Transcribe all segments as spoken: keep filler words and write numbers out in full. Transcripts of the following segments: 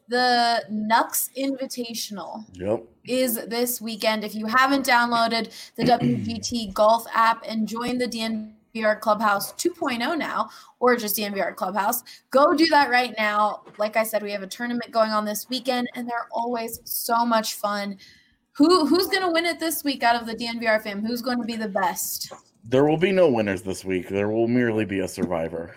The Nux Invitational yep. is this weekend. If you haven't downloaded the W G T Golf app and joined the D N V R Clubhouse two point oh now, or just D N V R Clubhouse, go do that right now. Like I said, we have a tournament going on this weekend, and they're always so much fun. Who Who's going to win it this week out of the D N V R fam? Who's going to be the best? There will be no winners this week. There will merely be a survivor.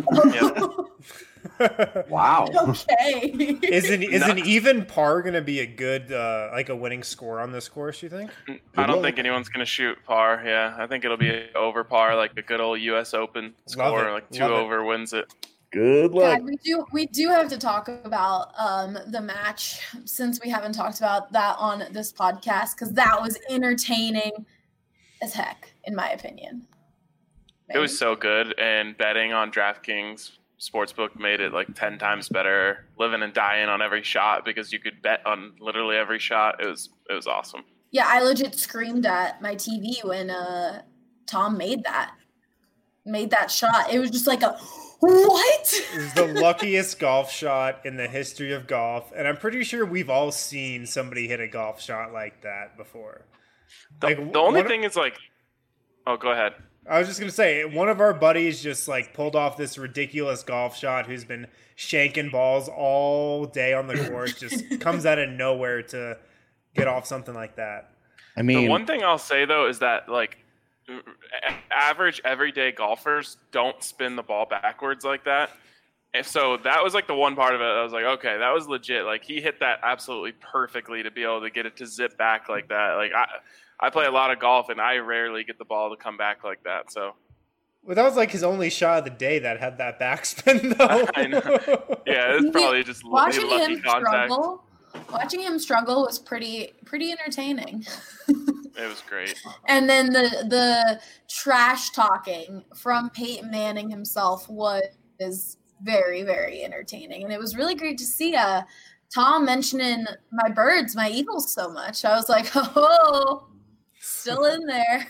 Wow. Okay. Is an is an even par going to be a good uh, like a winning score on this course? You think? I don't think anyone's going to shoot par. Yeah, I think it'll be over par, like a good old U S Open score, like two Love over it. wins it. Good luck. God, we do we do have to talk about um, the match, since we haven't talked about that on this podcast, because that was entertaining as heck, in my opinion. Maybe. It was so good, and betting on DraftKings Sportsbook made it like ten times better, living and dying on every shot, because you could bet on literally every shot. It was it was awesome. Yeah, I legit screamed at my T V when uh, Tom made that made that shot. It was just like a what? It was the luckiest golf shot in the history of golf, and I'm pretty sure we've all seen somebody hit a golf shot like that before. The, Like the only one- thing is like, oh, go ahead. I was just going to say, one of our buddies just like pulled off this ridiculous golf shot, who's been shanking balls all day on the course, just comes out of nowhere to get off something like that. I mean, The one thing I'll say, though, is that, like, average everyday golfers don't spin the ball backwards like that. And so that was, like, the one part of it. I was like, okay, that was legit. Like, he hit that absolutely perfectly to be able to get it to zip back like that. Like, I I play a lot of golf, and I rarely get the ball to come back like that. So, Well, that was like his only shot of the day that had that backspin, though. I know. Yeah, it's probably just watching lucky him contact. struggle. Watching him struggle was pretty pretty entertaining. It was great. And then the the trash talking from Peyton Manning himself was very, very entertaining. And it was really great to see uh, Tom mentioning my birds, my Eagles so much. I was like, oh, still in there.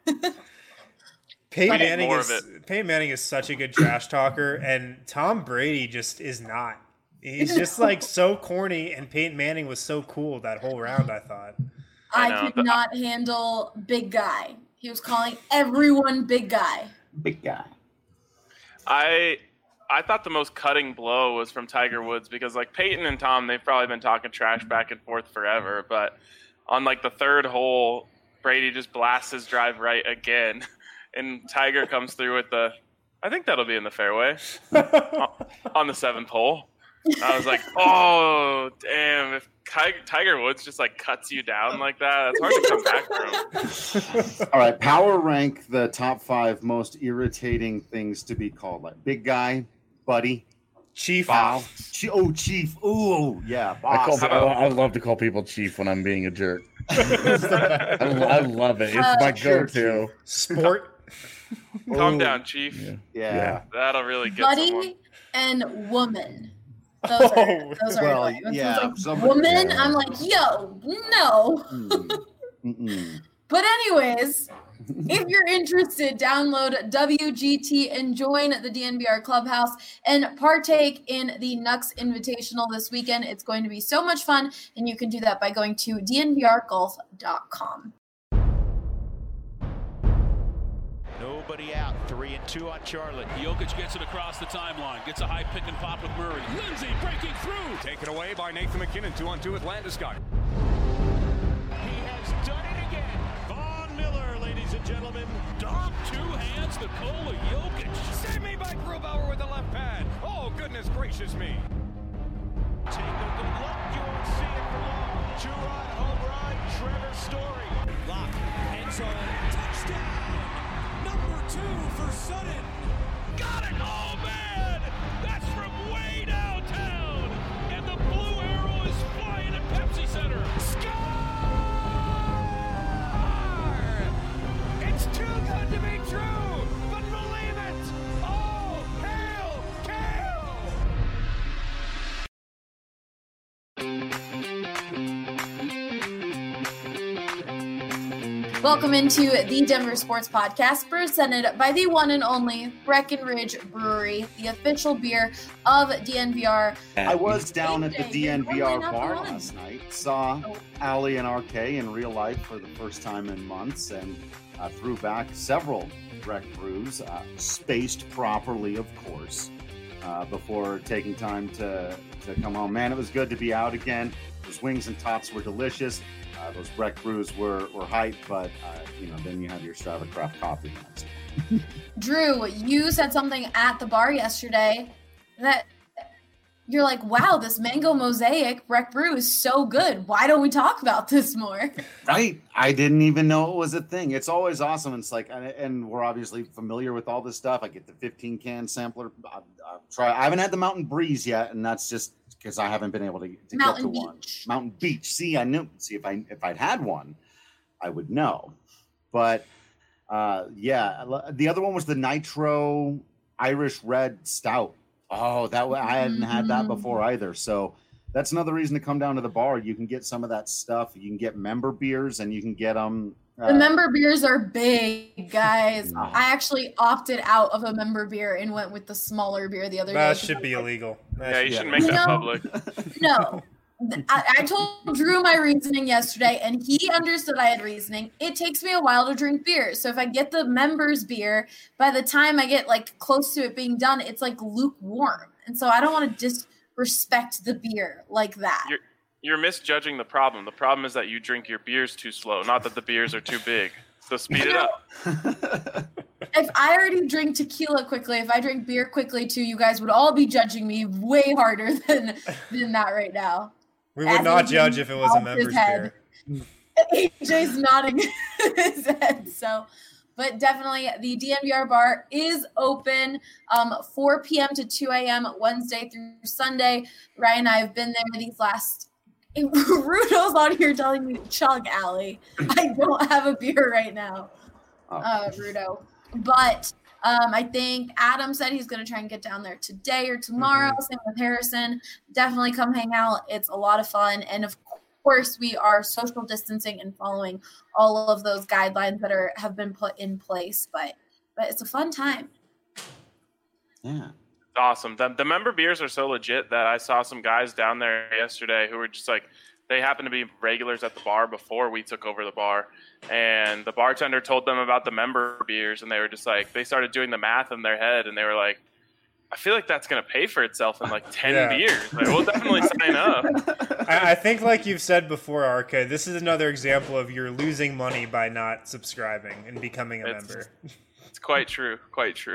Peyton We need Manning more is of it. Peyton Manning is such a good trash talker, and Tom Brady just is not. He's just like so corny, and Peyton Manning was so cool that whole round, I thought. I I, know, could but- not handle big guy. He was calling everyone big guy. Big guy. I I thought the most cutting blow was from Tiger Woods, because like Peyton and Tom, they've probably been talking trash back and forth forever, but on like the third hole, Brady just blasts his drive right again, and Tiger comes through with the, I think that'll be in the fairway on the seventh hole. I was like, oh damn! If Tiger Woods just like cuts you down like that, it's hard to come back from. All right, power rank the top five most irritating things to be called. Like big guy, buddy, Chief. Bow. Ch- oh, chief. Oh, yeah, I, boss. call, I, I love to call people chief when I'm being a jerk. I, I love it. It's Uh, my sure, go-to. Sport. Calm Ooh, down, Chief. Yeah. Yeah. Yeah. That'll really get Buddy someone. and woman. Those are, Oh, those are well, annoying. When yeah, someone's like, somebody- woman, yeah. I'm like, yo, no. Mm. Mm-mm. But anyways, if you're interested, download W G T and join the D N V R Clubhouse and partake in the Nux Invitational this weekend. It's going to be so much fun, and you can do that by going to d n v r golf dot com. Nobody out. Three and two on Charlotte. Jokic gets it across the timeline. Gets a high pick and pop with Murray. Lindsay breaking through. Taken away by Nathan McKinnon. Two on two with Landeskog. He has done it again. Von Miller, ladies and gentlemen. Dom, two hands, Nikola Jokic. Save me by Grubauer with the left pad. Oh, goodness gracious me. Take a good look. You won't see it for long. Two-run home run. Trevor Story. Lock. End zone. Touchdown. Number two for Sutton. Got it. Oh, man. That's from way downtown. And the blue arrow is flying at Pepsi Center. Score! It's too good to be true, but believe it. Oh, hail, Kale! Welcome into the Denver Sports Podcast, presented by the one and only Breckenridge Brewery, the official beer of D N V R. I was down at the A J, D N V you're R normally not bar the one. last night. Saw Oh. Allie and R K in real life for the first time in months, and uh, threw back several Breck brews, uh, spaced properly, of course, uh, before taking time to, to come home. Man, it was good to be out again. Those wings and tots were delicious. Uh, those Breck brews were, were hype, but, uh, you know, then you have your Strava Craft coffee next. Drew, you said something at the bar yesterday that you're like, wow, this mango mosaic Breck brew is so good. Why don't we talk about this more? Right. I didn't even know it was a thing. It's always awesome. It's like, and, and we're obviously familiar with all this stuff. I get the fifteen can sampler. I, I try. I haven't had the Mountain Breeze yet, and that's just because I haven't been able to, to Mountain get to Beach. one. Mountain Beach. See, I knew. See, if I if I'd had one, I would know. But uh, yeah, the other one was the Nitro Irish Red Stout. Oh, that way I hadn't had that before either. So that's another reason to come down to the bar. You can get some of that stuff. You can get member beers, and you can get them. Uh, The member beers are big, guys. I actually opted out of a member beer and went with the smaller beer the other That day. should be illegal. That Yeah, you should- shouldn't make You that know- public. No. I, I told Drew my reasoning yesterday, and he understood I had reasoning. It takes me a while to drink beer. So if I get the members beer, by the time I get like close to it being done, it's like lukewarm. And so I don't want to disrespect the beer like that. You're, you're misjudging the problem. The problem is that you drink your beers too slow, not that the beers are too big. So speed it up. If I already drink tequila quickly, if I drink beer quickly too, you guys would all be judging me way harder than than that right now. We would As not he judge if it was a nods his member's head. beer. A J's nodding his head. So, but definitely the D N V R bar is open um, four p.m. to two a.m. Wednesday through Sunday. Ryan and I have been there these last. Rudo's on here telling me to chug, Allie. I don't have a beer right now, Oh. uh, Rudo. But um, I think Adam said he's going to try and get down there today or tomorrow. Mm-hmm. Same with Harrison. Definitely come hang out. It's a lot of fun. And of course, we are social distancing and following all of those guidelines that are have been put in place. But but it's a fun time. Yeah. Awesome. The, the member beers are so legit that I saw some guys down there yesterday who were just like, they happened to be regulars at the bar before we took over the bar. And the bartender told them about the member beers, and they were just like, they started doing the math in their head, and they were like, I feel like that's going to pay for itself in like ten Yeah. beers. Like, we'll definitely sign up. I, I think, like you've said before, Arca, this is another example of you're losing money by not subscribing and becoming a It's- member. It's quite true. Quite true.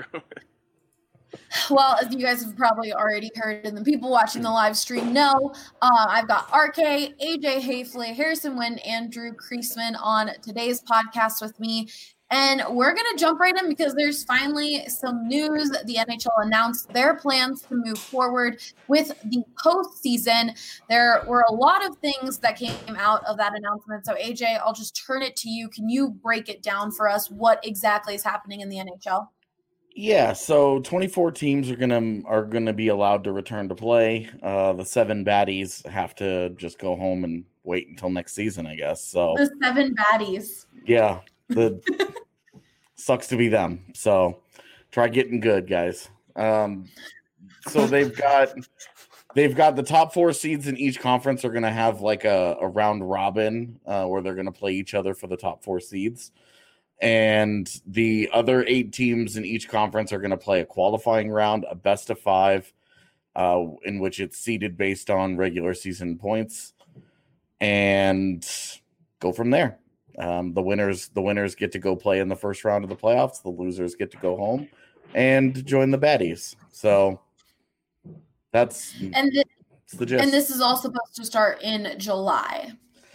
Well, as you guys have probably already heard, and the people watching the live stream know, uh, I've got R K, A J Hafley, Harrison Wynn, and Drew Kreisman on today's podcast with me. And we're going to jump right in because there's finally some news. The N H L announced their plans to move forward with the postseason. There were a lot of things that came out of that announcement. So, A J, I'll just turn it to you. Can you break it down for us? What exactly is happening in the N H L? Yeah, so twenty-four teams are gonna are gonna be allowed to return to play. Uh, the seven baddies have to just go home and wait until next season, I guess. So The seven baddies. yeah, the sucks to be them. So try getting good, guys. Um, so they've got they've got the top four seeds in each conference are gonna have like a, a round robin uh, where they're gonna play each other for the top four seeds. And the other eight teams in each conference are going to play a qualifying round, a best of five, uh, in which it's seeded based on regular season points, and go from there. Um, the winners, the winners get to go play in the first round of the playoffs. The losers get to go home and join the baddies. So that's And th- that's the gist. and this is all supposed to start in July.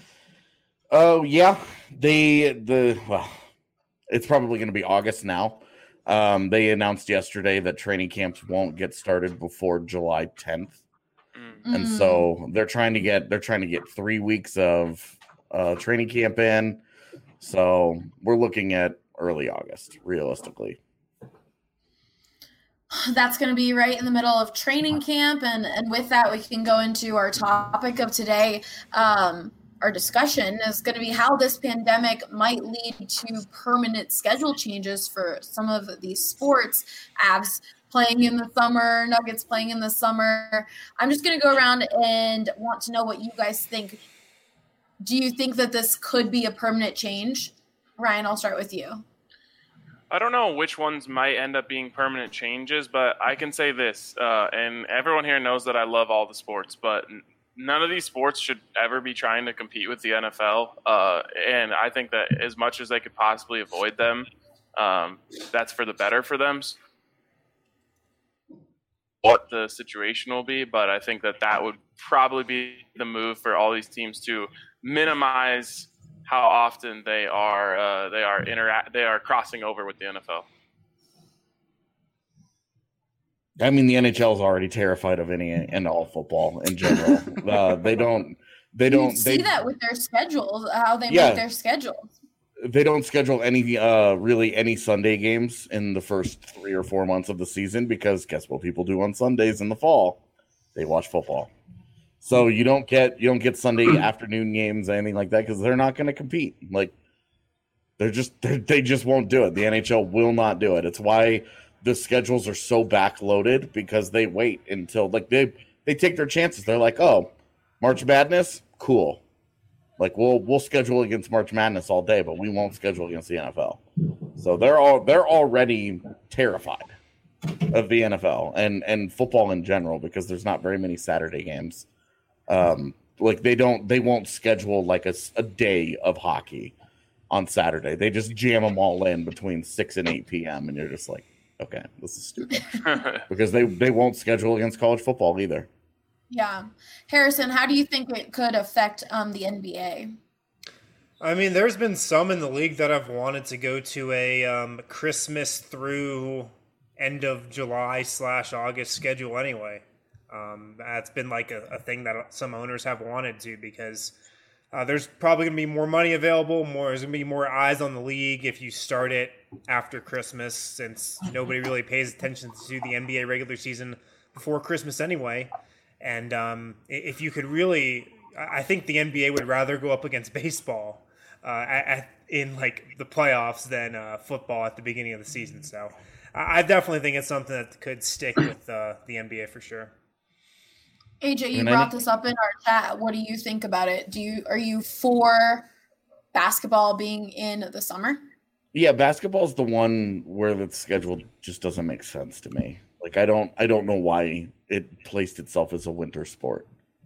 Oh yeah, they the well, it's probably going to be August now. Um, they announced yesterday that training camps won't get started before July tenth, Mm. and Mm. so they're trying to get they're trying to get three weeks of uh, training camp in. So we're looking at early August, realistically. That's going to be right in the middle of training camp. And, and with that, we can go into our topic of today. Um, our discussion is going to be how this pandemic might lead to permanent schedule changes for some of these sports. Avs playing in the summer, Nuggets playing in the summer. I'm just going to go around and want to know what you guys think. Do you think that this could be a permanent change? Ryan, I'll start with you. I don't know which ones might end up being permanent changes, but I can say this, uh, and everyone here knows that I love all the sports, but none of these sports should ever be trying to compete with the N F L. Uh, and I think that as much as they could possibly avoid them, um, that's for the better for them. What the situation will be, but I think that that would probably be the move for all these teams to minimize how often they are uh, they are interact they are crossing over with the N F L. I mean, the N H L is already terrified of any and all football in general. uh, they don't. They don't you see they, that with their schedules, how they yeah, make their schedules. They don't schedule any uh, really any Sunday games in the first three or four months of the season because guess what people do on Sundays in the fall? They watch football. So you don't get you don't get Sunday afternoon games, anything like that, because they're not going to compete. Like they're just they're, they just won't do it. The N H L will not do it. It's why the schedules are so backloaded, because they wait until like they they take their chances. They're like, oh, March Madness, cool. Like we'll we'll schedule against March Madness all day, but we won't schedule against the N F L. So they're all they're already terrified of the N F L and and football in general because there's not very many Saturday games. Um, like they don't, they won't schedule like a, a day of hockey on Saturday. They just jam them all in between six and eight p.m. And you're just like, okay, this is stupid because they, they won't schedule against college football either. Yeah. Harrison, how do you think it could affect um, the N B A? I mean, there's been some in the league that have wanted to go to a um, Christmas through end of July slash August schedule anyway. Um, that's been like a, a thing that some owners have wanted to because uh, there's probably going to be more money available. More There's going to be more eyes on the league if you start it after Christmas, since nobody really pays attention to the N B A regular season before Christmas anyway. And um, if you could really, I think the N B A would rather go up against baseball uh, at, in like the playoffs than uh, football at the beginning of the season. So I definitely think it's something that could stick with uh, the N B A for sure. A J, you and brought I, this up in our chat. What do you think about it? Do you are you for basketball being in the summer? Yeah, basketball is the one where the schedule just doesn't make sense to me. Like I don't I don't know why it placed itself as a winter sport.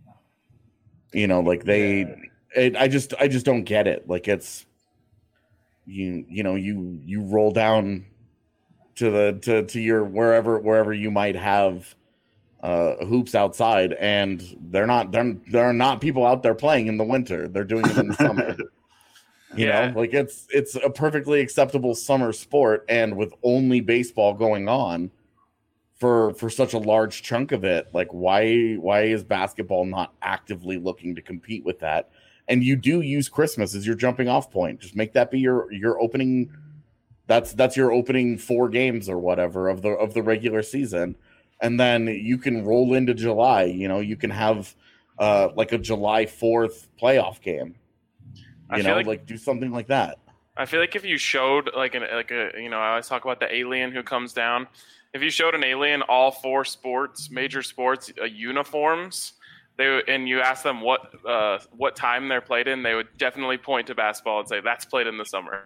You know, like they yeah. it, I just I just don't get it. Like it's you you know, you you roll down to the to, to your wherever wherever you might have Uh, hoops outside, and they're not they're, there are not people out there playing in the winter. They're doing it in the summer. You yeah. know, like it's it's a perfectly acceptable summer sport, and with only baseball going on for for such a large chunk of it, like why why is basketball not actively looking to compete with that? And you do use Christmas as your jumping off point. Just make that be your your opening. That's that's your opening four games or whatever of the of the regular season. And then you can roll into July. You know, you can have uh, like a July fourth playoff game. You know, like, like do something like that. I feel like if you showed like an like a you know I always talk about the alien who comes down. If you showed an alien all four sports, major sports uh, uniforms, they and you ask them what uh, what time they're played in, they would definitely point to basketball and say that's played in the summer.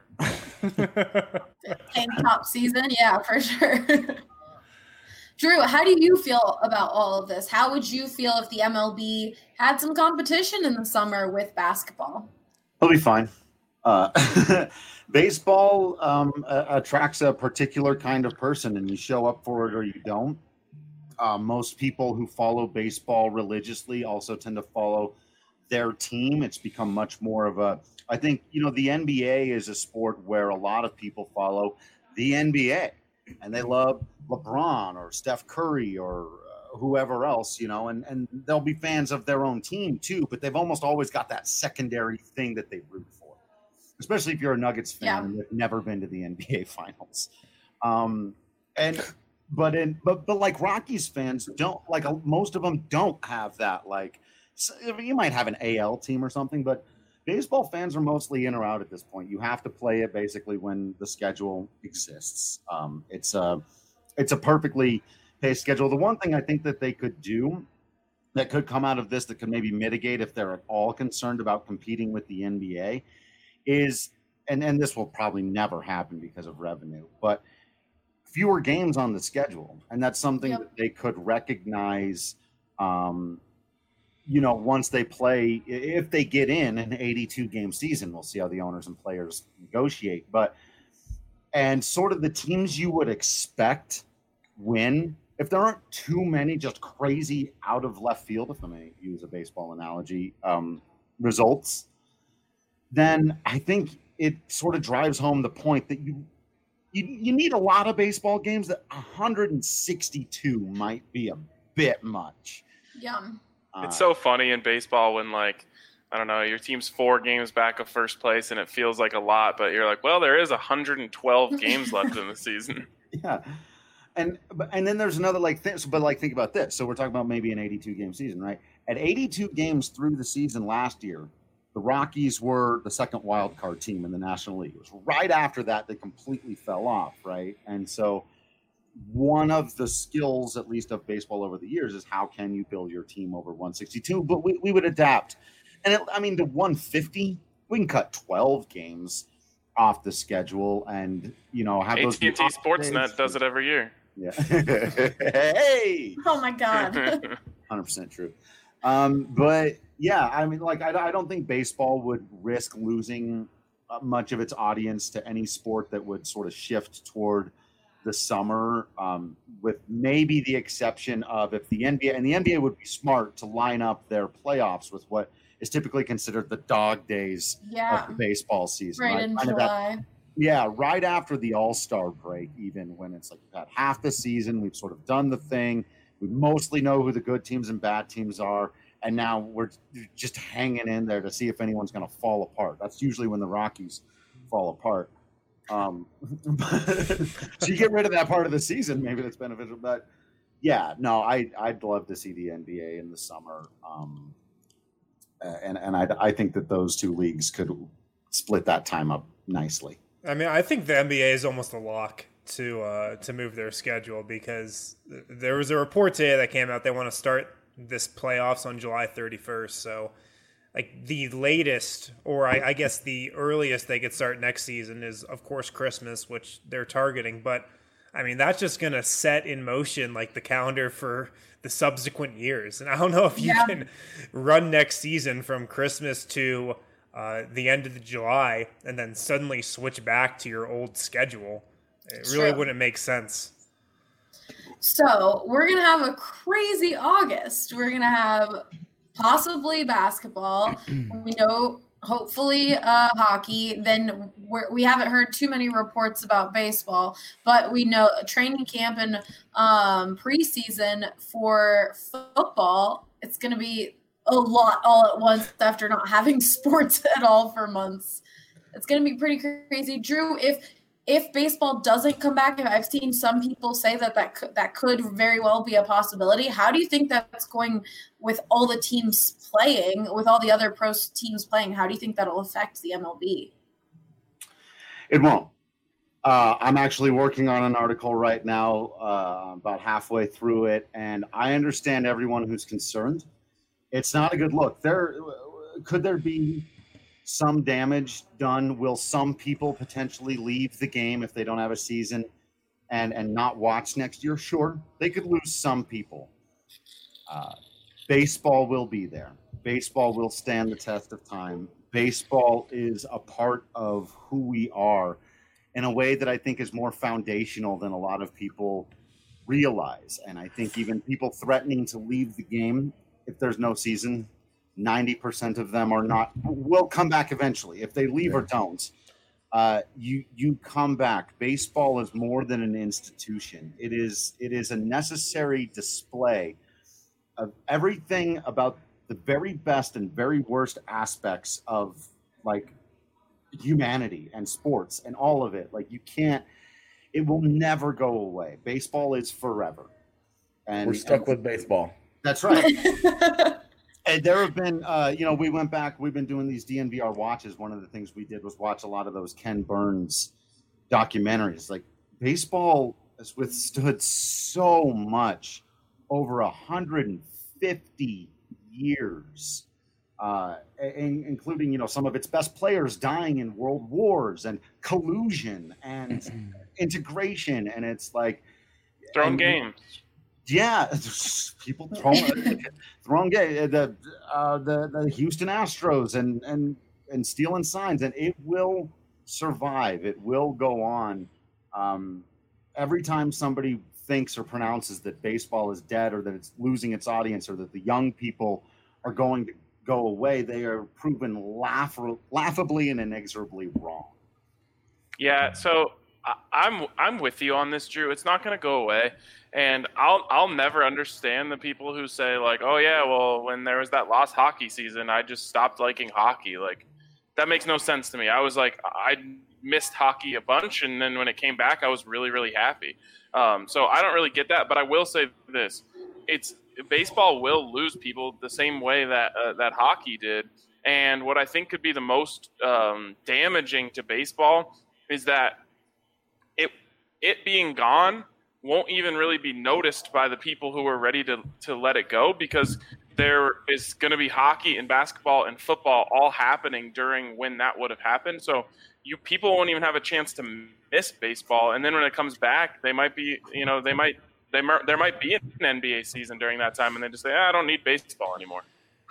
Tank top season, yeah, for sure. Drew, how do you feel about all of this? How would you feel if the M L B had some competition in the summer with basketball? It'll be fine. Uh, baseball um, uh, attracts a particular kind of person, and you show up for it or you don't. Uh, most people who follow baseball religiously also tend to follow their team. It's become much more of a – I think, you know, the N B A is a sport where a lot of people follow the N B A. And they love LeBron or Steph Curry or uh, whoever else, you know, and, and they'll be fans of their own team too, but they've almost always got that secondary thing that they root for, especially if you're a Nuggets fan yeah. and you've never been to the N B A finals. Um, and, but in, but, but like Rockies fans don't like, most of them don't have that. Like so you might have an A L team or something, but baseball fans are mostly in or out at this point. You have to play it basically when the schedule exists. Um, it's a it's a perfectly paced schedule. The one thing I think that they could do that could come out of this that could maybe mitigate if they're at all concerned about competing with the N B A is, and, and this will probably never happen because of revenue, but fewer games on the schedule. And that's something yep. that they could recognize, um, you know, once they play, if they get in an eighty-two game season, we'll see how the owners and players negotiate. But, and sort of the teams you would expect win, if there aren't too many just crazy out of left field, if I may use a baseball analogy, um, results, then I think it sort of drives home the point that you, you you need a lot of baseball games. That one hundred sixty-two might be a bit much. Yeah. Uh, it's so funny in baseball when, like, I don't know, your team's four games back of first place and it feels like a lot, but you're like, well, there is one hundred twelve games left in the season. Yeah. And and then there's another like thing, but like think about this. So we're talking about maybe an eighty-two game season, right? At eighty-two games through the season last year, the Rockies were the second wild card team in the National League. It was right after that they completely fell off, right? And so one of the skills, at least of baseball over the years, is how can you build your team over one sixty-two? But we, we would adapt. And it, I mean, to one fifty, we can cut twelve games off the schedule and, you know, have those. A T and T Sportsnet does it every year. Yeah. Hey. Oh my God. one hundred percent true. Um, but yeah, I mean, like, I, I don't think baseball would risk losing much of its audience to any sport that would sort of shift toward the summer, um, with maybe the exception of if the N B A, and the N B A would be smart to line up their playoffs with what is typically considered the dog days yeah. of the baseball season. Right, right? in Kind July. That, yeah, right after the All-Star break, even when it's like we've had half the season, we've sort of done the thing. We mostly know who the good teams and bad teams are, and now we're just hanging in there to see if anyone's going to fall apart. That's usually when the Rockies fall apart. Um, so you get rid of that part of the season, maybe that's beneficial. But yeah, no, I I'd love to see the N B A in the summer, um, and and I I think that those two leagues could split that time up nicely. I mean, I think the N B A is almost a lock to uh, to move their schedule because there was a report today that came out they want to start this playoffs on July thirty-first. So, like the latest, or I, I guess the earliest they could start next season is, of course, Christmas, which they're targeting. But I mean, that's just going to set in motion like the calendar for the subsequent years. And I don't know if you yeah. can run next season from Christmas to uh, the end of the July and then suddenly switch back to your old schedule. It really True. Wouldn't make sense. So we're going to have a crazy August. We're going to have possibly basketball. We know, hopefully, uh, hockey. Then we're, we haven't heard too many reports about baseball, but we know training camp and um, preseason for football. It's going to be a lot all at once after not having sports at all for months. It's going to be pretty crazy. Drew, if if baseball doesn't come back, I've seen some people say that that could, that could very well be a possibility. How do you think that's going with all the teams playing, with all the other pro teams playing? How do you think that'll affect the M L B? It won't. Uh, I'm actually working on an article right now, uh, about halfway through it, and I understand everyone who's concerned. It's not a good look. There could there be some damage done? Will some people potentially leave the game if they don't have a season and, and not watch next year? Sure, they could lose some people. Uh, baseball will be there. Baseball will stand the test of time. Baseball is a part of who we are in a way that I think is more foundational than a lot of people realize. And I think even people threatening to leave the game if there's no season, ninety percent of them are not, will come back eventually. If they leave or don't, uh, you you come back. Baseball is more than an institution. It is it is a necessary display of everything about the very best and very worst aspects of like humanity and sports and all of it. Like you can't, it will never go away. Baseball is forever. And we're stuck and, with baseball. That's right. And there have been, uh, you know, we went back, we've been doing these D N V R watches. One of the things we did was watch a lot of those Ken Burns documentaries. Like, baseball has withstood so much over one hundred fifty years, uh, in, including, you know, some of its best players dying in world wars and collusion and integration. And it's like Throwing and, games. Yeah, people throwing throwing the uh, the the Houston Astros and and and stealing signs, and it will survive. It will go on. Um, every time somebody thinks or pronounces that baseball is dead, or that it's losing its audience, or that the young people are going to go away, they are proven laugh- laughably and inexorably wrong. Yeah, so I- I'm I'm with you on this, Drew. It's not going to go away. And I'll I'll never understand the people who say, like, oh yeah, well, when there was that lost hockey season, I just stopped liking hockey. Like, that makes no sense to me. I was like, I missed hockey a bunch, and then when it came back, I was really, really happy. Um, so I don't really get that, but I will say this: it's baseball will lose people the same way that uh, that hockey did. And what I think could be the most um, damaging to baseball is that it it being gone won't even really be noticed by the people who are ready to, to let it go, because there is going to be hockey and basketball and football all happening during when that would have happened. So you people won't even have a chance to miss baseball. And then when it comes back, they might be, you know, they might, they might, there might be an N B A season during that time, and they just say, ah, I don't need baseball anymore.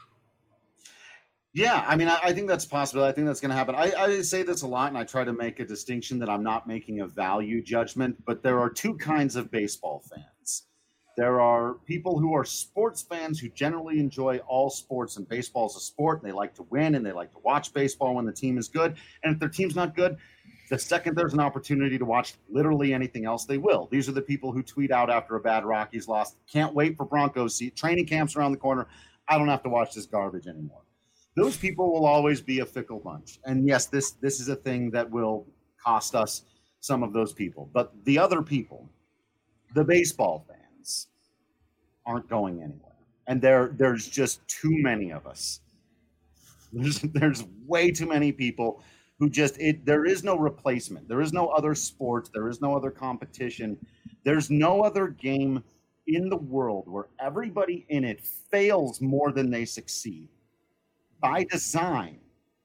Yeah, I mean, I, I think that's possible. I think that's going to happen. I, I say this a lot, and I try to make a distinction that I'm not making a value judgment, but there are two kinds of baseball fans. There are people who are sports fans who generally enjoy all sports, and baseball is a sport, and they like to win, and they like to watch baseball when the team is good. And if their team's not good, the second there's an opportunity to watch literally anything else, they will. These are the people who tweet out after a bad Rockies loss, can't wait for Broncos seat, training camps around the corner, I don't have to watch this garbage anymore. Those people will always be a fickle bunch. And yes, this this is a thing that will cost us some of those people. But the other people, the baseball fans, aren't going anywhere. And there there's just too many of us. There's, there's way too many people who just, it. there is no replacement. There is no other sport. There is no other competition. There's no other game in the world where everybody in it fails more than they succeed. By design.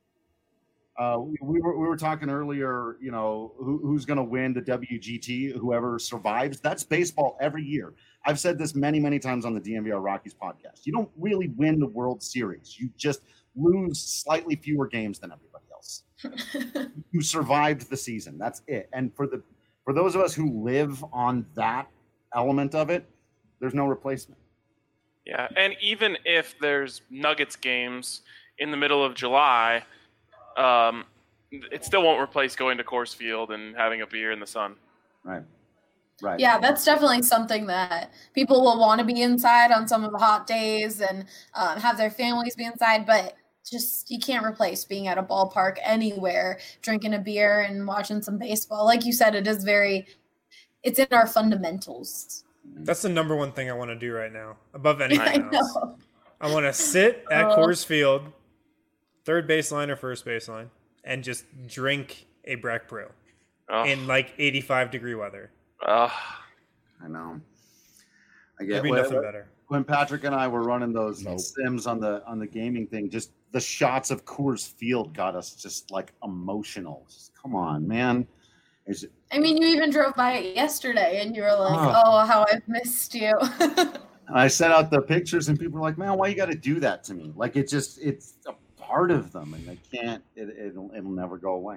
Uh, we, we were we were talking earlier, you know, who, who's going to win the W G T, whoever survives. That's baseball every year. I've said this many, many times on the D N V R Rockies podcast. You don't really win the World Series. You just lose slightly fewer games than everybody else. You survived the season. That's it. And for the for those of us who live on that element of it, there's no replacement. Yeah, and even if there's Nuggets games in the middle of July, um, it still won't replace going to Coors Field and having a beer in the sun. Right. Right. Yeah, that's definitely something that people will want to be inside on some of the hot days and um, have their families be inside, but just you can't replace being at a ballpark anywhere, drinking a beer and watching some baseball. Like you said, it is very, it's in our fundamentals. That's the number one thing I want to do right now, above anything I else. know. I want to sit at Oh. Coors Field, third baseline or first baseline, and just drink a Breck Brew Oh, in like eighty-five degree weather. uh, I know. I There'd get be when, nothing better. when Patrick and I were running those Nope. sims on the on the gaming thing, just the shots of Coors Field got us just like emotional. Just, come on, man. Is it, I mean, you even drove by it yesterday and you were like, Oh. oh, how I've missed you. and I sent out the pictures and people were like, man, why you got to do that to me? Like it just it's a part of them and they can't. It, it'll it'll never go away.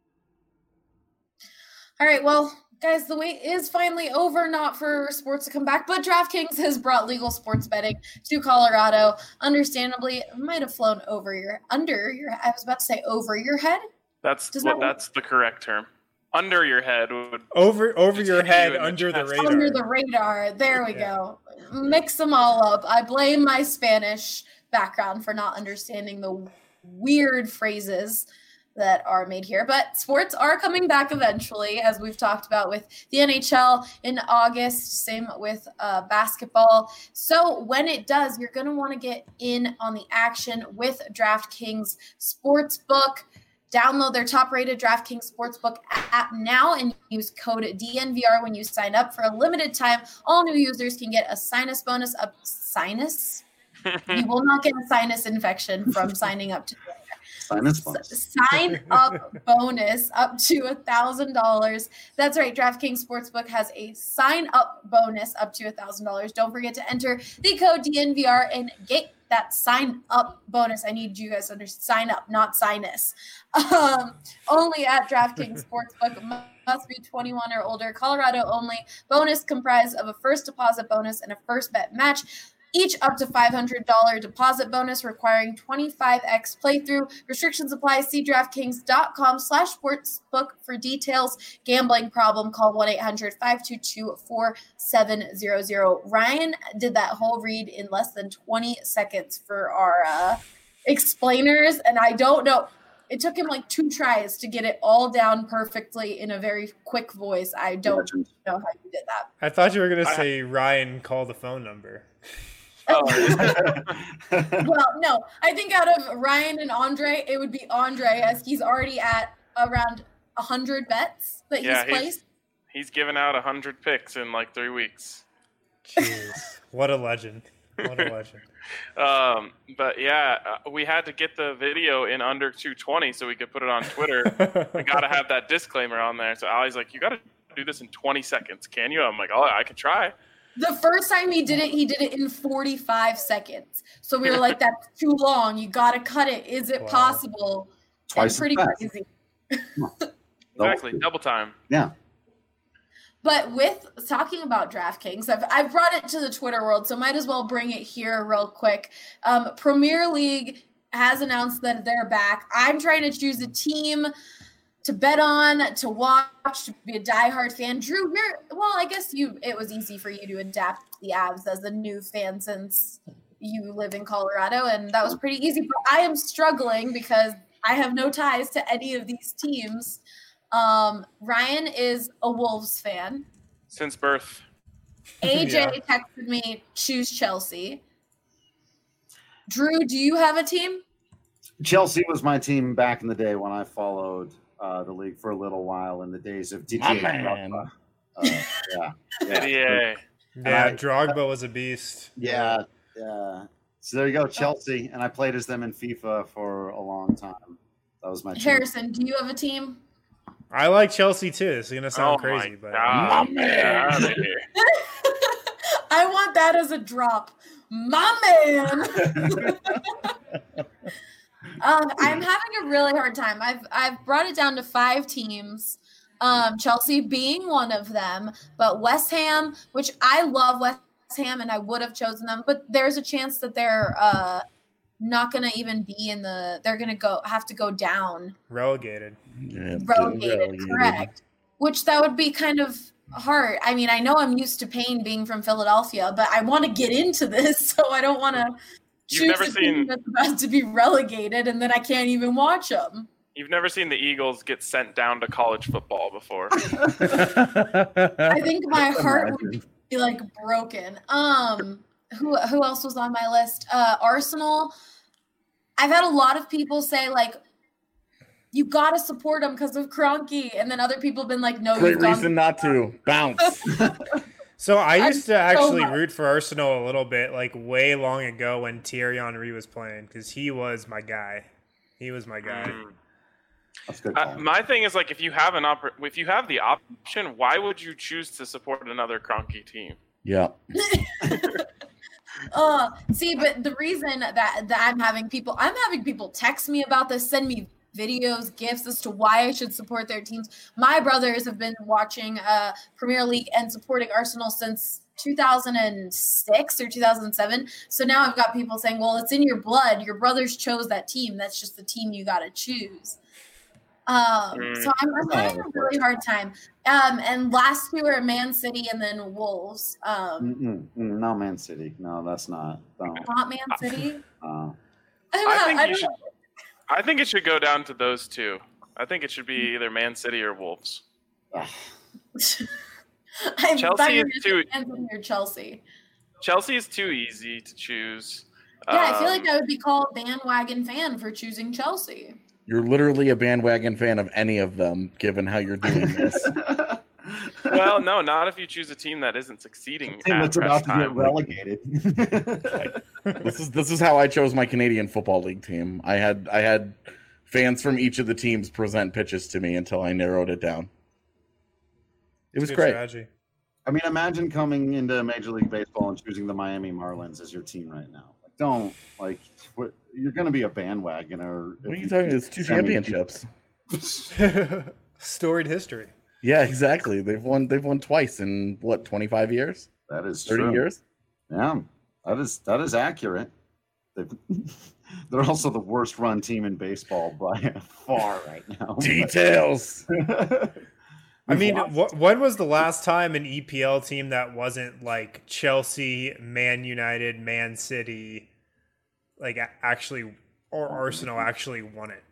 All right, well, guys, the wait is finally over, not for sports to come back, but DraftKings has brought legal sports betting to Colorado. Understandably, it might have flown over your, under your, I was about to say over your head. that's Does what that- that's the correct term. Under your head would Over over Just your hit you head, in the under the chest. radar. Under the radar. There we Yeah. go. Mix them all up. I blame my Spanish background for not understanding the weird phrases. that are made here. But sports are coming back eventually, as we've talked about with the N H L in August, same with uh, basketball. So when it does, you're going to want to get in on the action with DraftKings Sportsbook. Download their top-rated DraftKings Sportsbook app now and use code D N V R when you sign up. For a limited time, all new users can get a sinus bonus up sinus. You will not get a sinus infection from signing up to Sinus bonus. Sign up bonus up to one thousand dollars. That's right. DraftKings Sportsbook has a sign up bonus up to one thousand dollars. Don't forget to enter the code D N V R and get that sign up bonus. I need you guys to understand. Sign up, not sinus. Um, only at DraftKings Sportsbook. Must be twenty-one or older. Colorado only. Bonus comprised of a first deposit bonus and a first bet match. Each up to five hundred dollars deposit bonus requiring twenty-five x playthrough. Restrictions apply. See DraftKings.com slash sportsbook for details. Gambling problem, call one eight hundred five two two four seven zero zero. Ryan did that whole read in less than twenty seconds for our uh, explainers, and I don't know. It took him like two tries to get it all down perfectly in a very quick voice. I don't know how you did that. I thought you were going to say Ryan, call the phone number. Oh. Well, no. I think out of Ryan and Andre, it would be Andre, as he's already at around one hundred bets that Yeah, he's placed. He's, he's given out one hundred picks in like three weeks. Jeez. What a legend. What a legend. Um, but yeah, uh, we had to get the video in under two twenty so we could put it on Twitter. We got to have that disclaimer on there. So Ali's like, you got to do this in twenty seconds. Can you? I'm like, oh, I can try. The first time he did it, he did it in forty-five seconds. So we were like, that's too long. You got to cut it. Is it Wow. possible? Twice That's pretty as fast. crazy. Exactly, double time. Yeah. But with talking about DraftKings, I've, I've brought it to the Twitter world, so might as well bring it here real quick. Um, Premier League has announced that they're back. I'm trying to choose a team to bet on, to watch, to be a diehard fan. Drew, you're, well, I guess you. It was easy for you to adapt the Avs as a new fan since you live in Colorado, and that was pretty easy. But I am struggling because I have no ties to any of these teams. Um, Ryan is a Wolves fan. Since birth. A J Yeah. texted me, choose Chelsea. Drew, do you have a team? Chelsea was my team back in the day when I followed uh, the league for a little while in the days of D J. My man. Uh, yeah, yeah, Yeah. Yeah, I- Drogba was a beast. yeah, yeah. So there you go, Chelsea, and I played as them in FIFA for a long time. That was my team. Harrison, do you have a team? I like Chelsea too. It's going to sound Oh crazy, my but God. My man. Get out of here. I want that as a drop. My man. um, I'm having a really hard time. I've I've brought it down to five teams. Um, Chelsea being one of them, but West Ham, which I love West Ham, and I would have chosen them, but there's a chance that they're uh, not going to even be in the. They're going to go have to go down. relegated. Yeah, Relegated, relegated. correct. Which that would be kind of hard. I mean, I know I'm used to pain being from Philadelphia, but I want to get into this, so I don't want to You've choose never a team seen- that's about to be relegated, and then I can't even watch them. You've never seen the Eagles get sent down to college football before. I think my heart would Imagine. be like broken. Um, who who else was on my list? Uh, Arsenal. I've had a lot of people say like, you gotta support them because of Kroenke, and then other people have been like, no, Great you've gone- reason not to. Bounce. So I I'm used to actually so- root for Arsenal a little bit, like way long ago when Thierry Henry was playing, because he was my guy. He was my guy. Mm. That's good. Uh, call. my thing is like if you have an oppor- if you have the option, why would you choose to support another Kroenke team? Yeah. Uh, see, but the reason that, that I'm having people, I'm having people text me about this, send me videos, gifts as to why I should support their teams. My brothers have been watching uh, Premier League and supporting Arsenal since two thousand six or two thousand seven. So now I've got people saying, well, it's in your blood. Your brothers chose that team. That's just the team you got to choose. Um, Mm. so I'm, I'm having a really hard time. Um, and last two are Man City and then Wolves. Um, Mm-mm, mm, no, Man City. No, that's not. No. not Man City. Uh, I, don't I know, think I you don't should- know. I think it should go down to those two. I think it should be either Man City or Wolves. I Chelsea thought you were is going too- to answer your Chelsea. Chelsea is too easy to choose. Yeah, I feel like Um, I would be called bandwagon fan for choosing Chelsea. You're literally a bandwagon fan of any of them, given how you're doing this. Well, no, not if you choose a team that isn't succeeding. Team at that's press about to time. get relegated. This is this is how I chose my Canadian Football League team. I had I had fans from each of the teams present pitches to me until I narrowed it down. It was Good great. strategy. I mean, imagine coming into Major League Baseball and choosing the Miami Marlins as your team right now. Like, don't like what, you're going to be a bandwagoner. What are if you talking? It's two I mean, championships. Storied history. Yeah, exactly. They've won. They've won twice in what, twenty-five years, That is thirty true. years. Yeah, that is that is accurate. They've, they're also the worst run team in baseball by far right now. Details. I mean, lost. wh- when was the last time an E P L team that wasn't like Chelsea, Man United, Man City, like a- actually, or Arsenal actually won it?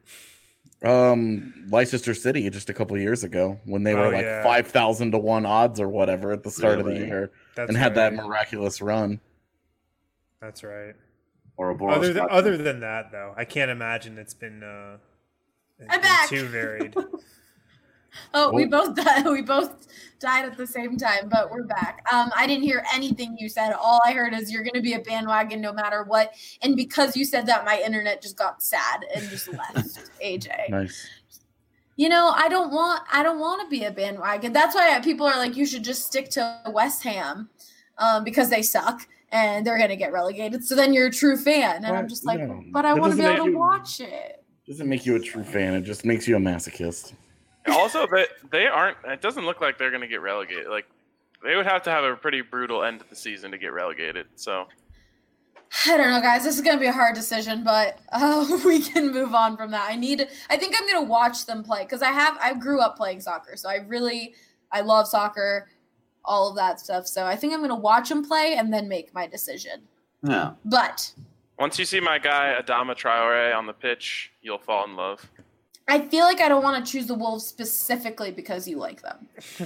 Um, Leicester City just a couple of years ago when they were Oh, like yeah. five thousand to one odds or whatever at the start of the Really? year, That's and had that right. miraculous run. That's right. or a Boris Other than, Becker. other than that, though, I can't imagine it's been, uh, it's I'm been back. too varied. Oh, we Oh. both died. We both died at the same time, but we're back. Um, I didn't hear anything you said. All I heard is you're going to be a bandwagon no matter what. And because you said that, my internet just got sad and just left. A J, Nice. you know, I don't want. I don't want to be a bandwagon. That's why people are like, you should just stick to West Ham, um, because they suck and they're going to get relegated. So then you're a true fan, and I'm Well, just like, no. but I That want to be doesn't able make to you- watch it. Doesn't make you a true fan. It just makes you a masochist. Also, they they aren't. It doesn't look like they're going to get relegated. Like they would have to have a pretty brutal end to the season to get relegated. So I don't know, guys. This is going to be a hard decision, but uh, we can move on from that. I need. I think I'm going to watch them play because I have. I grew up playing soccer, so I really, I love soccer, all of that stuff. So I think I'm going to watch them play and then make my decision. Yeah. But once you see my guy Adama Traore on the pitch, you'll fall in love. I feel like I don't want to choose the Wolves specifically because you like them.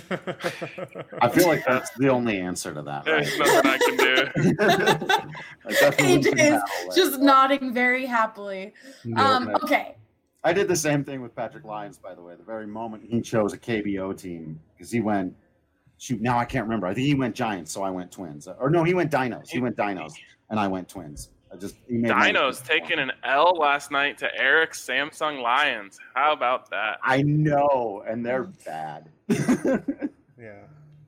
I feel like that's the only answer to that. There's Right? nothing I can do. Like, that's the A J losing is battle, right? just nodding very happily. Um, okay. okay. I did the same thing with Patrick Lyons, by the way. The very moment he chose a K B O team, because he went, shoot, now I can't remember. I think he went Giants, so I went Twins. Or no, he went Dinos. He went Dinos, and I went Twins. I just he made my- Dinos taking an L last night to Eric Samsung Lions. How about that? I know, and they're bad. Yeah.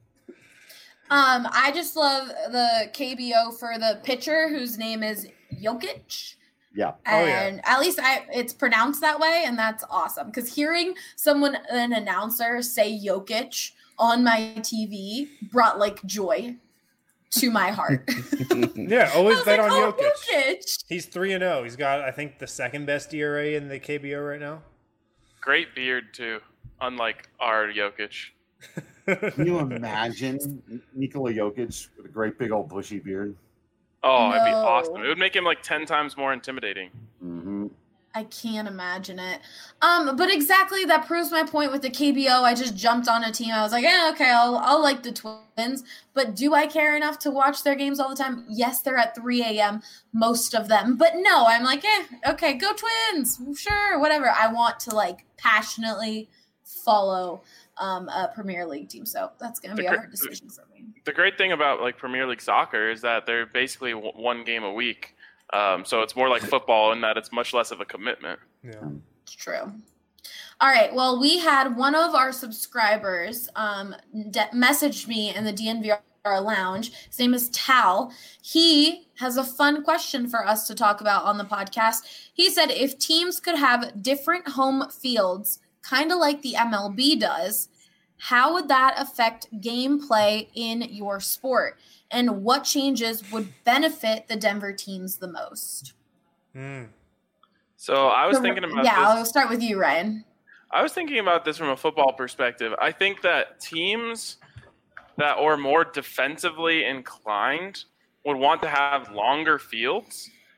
Um, I just love the K B O for the pitcher whose name is Jokic. Yeah. Oh, yeah. And at least I it's pronounced that way, and that's awesome. Because hearing someone, an announcer, say Jokic on my T V brought like joy to my heart. Yeah, I always was bet like, on oh, Jokic. Jokic. He's three and zero. He's got, I think, the second best E R A in the K B O right now. Great beard too, unlike our Jokic. Can you imagine Nikola Jokic with a great big old bushy beard? Oh, it'd be No. awesome. It would make him like ten times more intimidating. Mm-hmm. I can't imagine it. Um, but exactly that proves my point with the K B O. I just jumped on a team. I was like, yeah, okay, I'll I'll like the Twins. But do I care enough to watch their games all the time? Yes, they're at three a.m. most of them. But no, I'm like, eh, okay, go Twins. Sure, whatever. I want to like passionately follow um, a Premier League team. So that's gonna be a The hard gr- decision for me. The great thing about like Premier League soccer is that they're basically w- one game a week. Um, so it's more like football in that it's much less of a commitment. Yeah. It's true. All right. Well, we had one of our subscribers um, de- message me in the D N V R lounge. His name is Tal. He has a fun question for us to talk about on the podcast. He said if teams could have different home fields, kind of like the M L B does, how would that affect gameplay in your sport? And what changes would benefit the Denver teams the most? Mm. So I was So, thinking about yeah, this. I'll start with you, Ryan. I was thinking about this from a football perspective. I think that teams that are more defensively inclined would want to have longer fields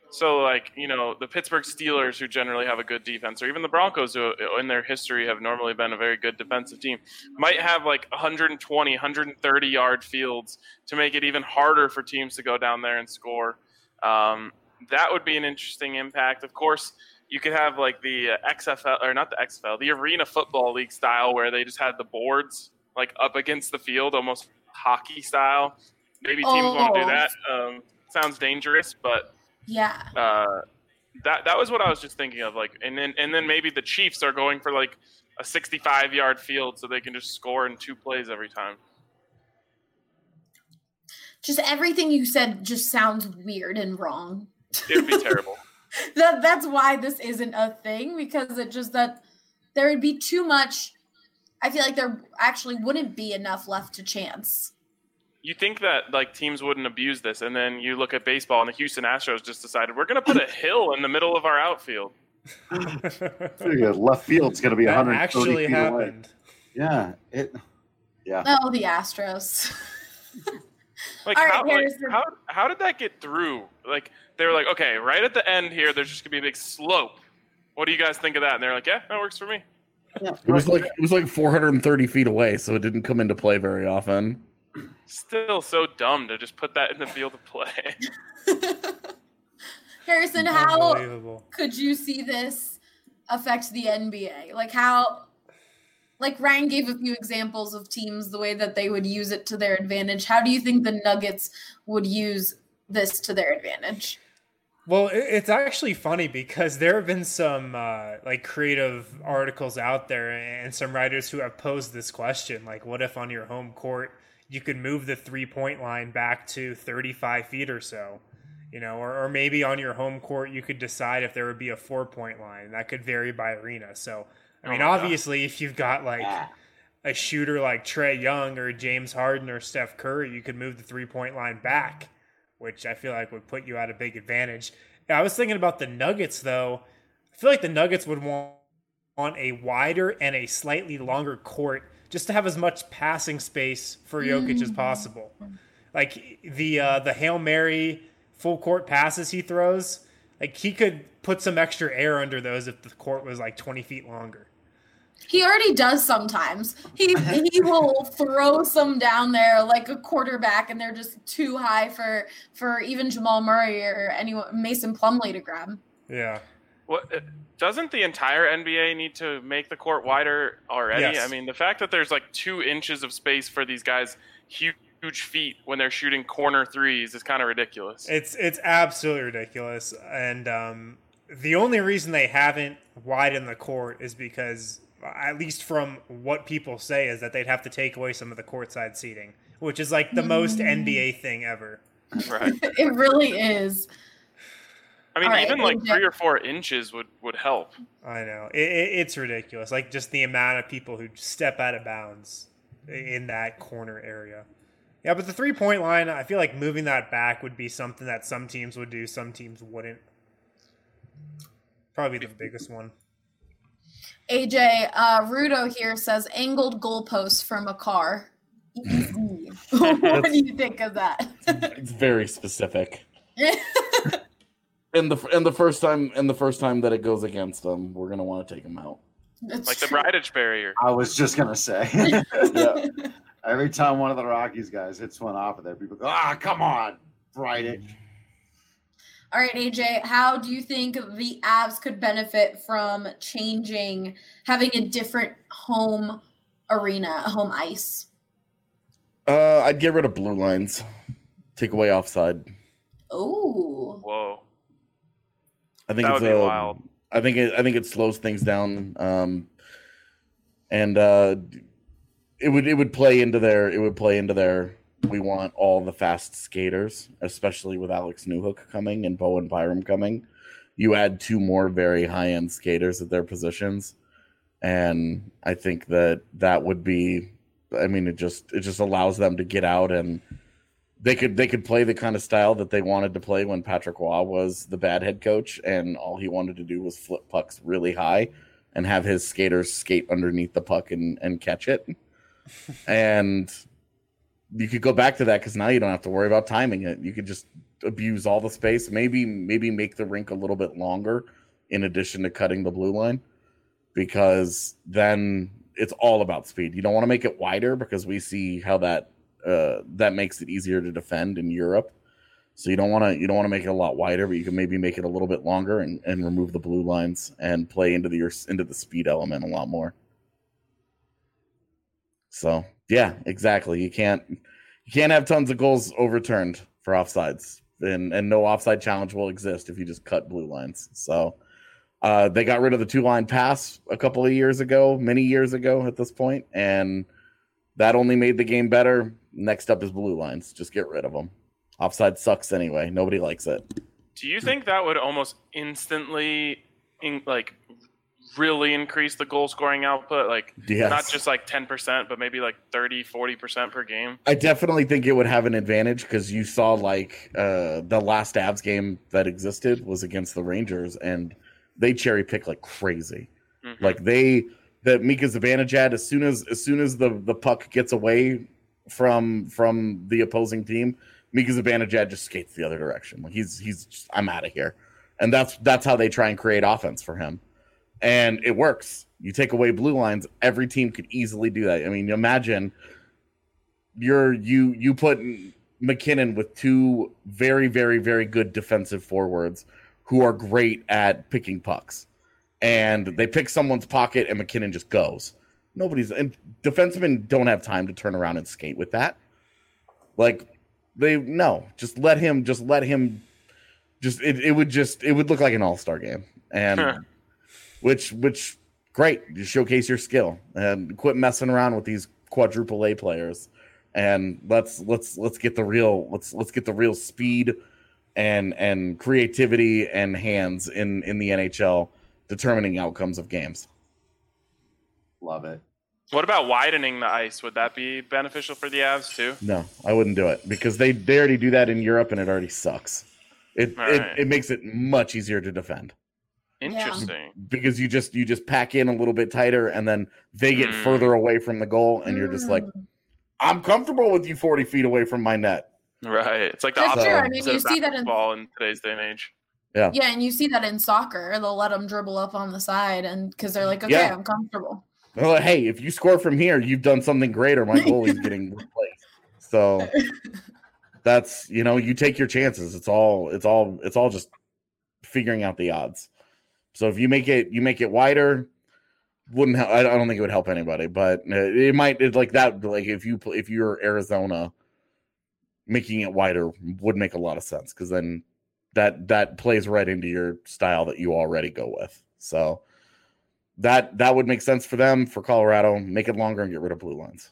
So, like, you know, the Pittsburgh Steelers, who generally have a good defense, or even the Broncos, who in their history have normally been a very good defensive team, might have like one twenty, one thirty yard fields to make it even harder for teams to go down there and score. Um, that would be an interesting impact. Of course, you could have like the X F L, or not the X F L, the Arena Football League style, where they just had the boards like up against the field, almost hockey style. Maybe teams Oh. want to do that. Um, sounds dangerous, but Yeah. uh, that that was what I was just thinking of. Like, and then and then maybe the Chiefs are going for like a sixty-five yard field so they can just score in two plays every time. Just everything you said just sounds weird and wrong. It would be terrible. That that's why this isn't a thing, because it just that there would be too much. I feel like there actually wouldn't be enough left to chance. You think that like teams wouldn't abuse this, and then you look at baseball, and the Houston Astros just decided we're going to put a hill in the middle of our outfield. Figure left field's going to be That one hundred thirty actually feet away. happened. Yeah, it. Yeah. Oh, the Astros. Like, All right, how, like Harrison. how how did that get through? Like they were like, okay, right at the end here, there's just gonna be a big slope. What do you guys think of that? And they're like, yeah, that works for me. Yeah, It was like it was like four hundred thirty feet away, so it didn't come into play very often. Still so dumb to just put that in the field of play. Harrison, how Unbelievable. could you see this affect the N B A? Like how, like Ryan gave a few examples of teams, the way that they would use it to their advantage. How do you think the Nuggets would use this to their advantage? Well, it- it's actually funny because there have been some uh, like creative articles out there and some writers who have posed this question, like, what if on your home court you could move the three-point line back to thirty-five feet or so, you know, or, or maybe on your home court you could decide if there would be a four-point line. That could vary by arena. So, I mean, Oh my God. obviously, if you've got like a shooter like Trae Young or James Harden or Steph Curry, you could move the three-point line back, which I feel like would put you at a big advantage. I was thinking about the Nuggets, though. I feel like the Nuggets would want, want a wider and a slightly longer court just to have as much passing space for Jokic as possible. Like the uh, the Hail Mary full court passes he throws, like he could put some extra air under those if the court was like twenty feet longer. He already does sometimes. He he will throw some down there like a quarterback, and they're just too high for for even Jamal Murray or anyone, Mason Plumlee to grab. Yeah. What uh, doesn't the entire N B A need to make the court wider already? Yes. I mean, the fact that there's like two inches of space for these guys, huge, huge feet when they're shooting corner threes, is kind of ridiculous. It's it's absolutely ridiculous. And um, the only reason they haven't widened the court is because, at least from what people say, is that they'd have to take away some of the courtside seating, which is like the most N B A thing ever. Right. It really is. I mean, All right, even like A J. three or four inches would, would help. I know. It, it, it's ridiculous. Like, just the amount of people who step out of bounds in that corner area. Yeah, but the three-point line, I feel like moving that back would be something that some teams would do, some teams wouldn't. Probably the biggest one. A J, uh, Rudo here says angled goalposts from a car. Easy. What do you think of that? It's very specific. And the and the first time and the first time that it goes against them, we're gonna want to take them out. That's Like the true. Bridage barrier. I was just gonna say. Yeah. Every time one of the Rockies guys hits one off of there, people go, "Ah, come on, Bright." All right, A J, how do you think the Avs could benefit from changing, having a different home arena, a home ice? Uh, I'd get rid of blue lines, take away offside. Oh, Whoa. I think That it's would be uh, wild. I think it, I think it slows things down, um, and uh, it would it would play into their it would play into their. We want all the fast skaters, especially with Alex Newhook coming and Bowen Byram coming. You add two more very high end skaters at their positions, and I think that that would be. I mean, it just it just allows them to get out and. They could they could play the kind of style that they wanted to play when Patrick Waugh was the bad head coach, and all he wanted to do was flip pucks really high and have his skaters skate underneath the puck and, and catch it. And you could go back to that because now you don't have to worry about timing it. You could just abuse all the space. Maybe maybe make the rink a little bit longer in addition to cutting the blue line, because then it's all about speed. You don't want to make it wider because we see how that uh, that makes it easier to defend in Europe. So you don't want to you don't want to make it a lot wider, but you can maybe make it a little bit longer and, and remove the blue lines and play into the your, into the speed element a lot more. So yeah, exactly. You can't you can't have tons of goals overturned for offsides, and and no offside challenge will exist if you just cut blue lines. So uh, they got rid of the two line pass a couple of years ago, many years ago at this point, and that only made the game better. Next up is blue lines. Just get rid of them. Offside sucks anyway. Nobody likes it. Do you think that would almost instantly, in, like, really increase the goal scoring output? Like, yes. Not just like ten percent, but maybe like thirty, forty percent per game? I definitely think it would have an advantage because you saw, like, uh, the last Avs game that existed was against the Rangers, and they cherry pick like crazy. Mm-hmm. Like, they, that Mika Zibanejad, as soon as as soon as the, the puck gets away from from the opposing team, Mika Zibanejad just skates the other direction. Like he's he's just, I'm out of here, and that's that's how they try and create offense for him, and it works. You take away blue lines, every team could easily do that. I mean, imagine you're you you put McKinnon with two very very very good defensive forwards who are great at picking pucks, and they pick someone's pocket and McKinnon just goes. Nobody's and defensemen don't have time to turn around and skate with that. Like. They no, just let him. Just let him. Just it, it would just it would look like an all-star game, and huh. which which great. You showcase your skill and quit messing around with these quadruple A players, and let's let's let's get the real let's let's get the real speed and and creativity and hands in in the N H L determining outcomes of games. Love it. What about widening the ice? Would that be beneficial for the Avs too? No, I wouldn't do it because they, they already do that in Europe and it already sucks. It All it, right. it makes it much easier to defend. Interesting. Because you just you just pack in a little bit tighter and then they get mm. further away from the goal and mm. you're just like, I'm comfortable with you forty feet away from my net. Right. It's like the That's opposite true. I mean, you see that in ball in today's day and age. Yeah. Yeah, and you see that in soccer. They'll let them dribble up on the side and because they're like, okay, yeah. I'm comfortable. Well, hey, if you score from here, you've done something great, or my goalie's getting replaced. So that's you know, you take your chances. It's all it's all it's all just figuring out the odds. So if you make it you make it wider, wouldn't help, I don't think it would help anybody, but it might it like that. Like if you if you're Arizona, making it wider would make a lot of sense because then that that plays right into your style that you already go with. So. That that would make sense for them. For Colorado, make it longer and get rid of blue lines.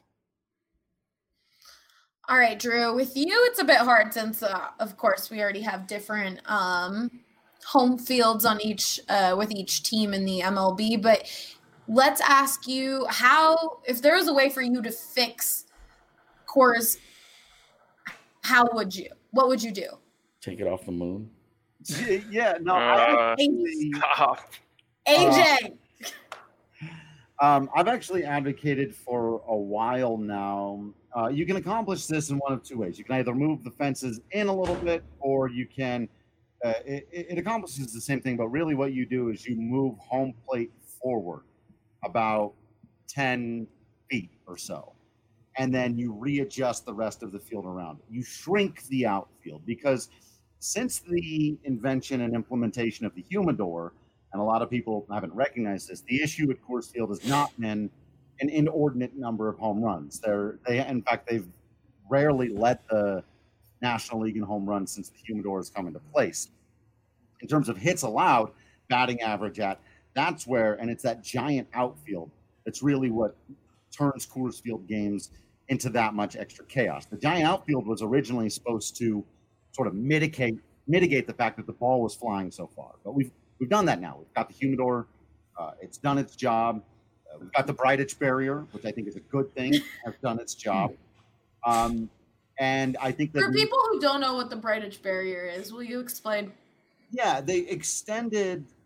All right, Drew. With you, it's a bit hard since, uh, of course, we already have different um, home fields on each uh, with each team in the M L B. But let's ask you how, if there was a way for you to fix Coors, how would you? What would you do? Take it off the moon. Yeah, no. Uh, I actually, stop. A J. Uh, Um, I've actually advocated for a while now. Uh, you can accomplish this in one of two ways. You can either move the fences in a little bit, or you can. Uh, it, it accomplishes the same thing, but really, what you do is you move home plate forward about ten feet or so, and then you readjust the rest of the field around it. You shrink the outfield because since the invention and implementation of the humidor. And a lot of people haven't recognized this. The issue at Coors Field has not been an inordinate number of home runs. They're, they, in fact, they've rarely led the National League in home runs since the humidor has come into place. In terms of hits allowed, batting average at, that's where, and it's that giant outfield that's really what turns Coors Field games into that much extra chaos. The giant outfield was originally supposed to sort of mitigate mitigate the fact that the ball was flying so far, but we've We've done that now. We've got the humidor. Uh, it's done its job. Uh, we've got the Breitich barrier, which I think is a good thing, has done its job. Um, and I think that... For people who don't know what the Breitich barrier is, will you explain? Yeah, they extended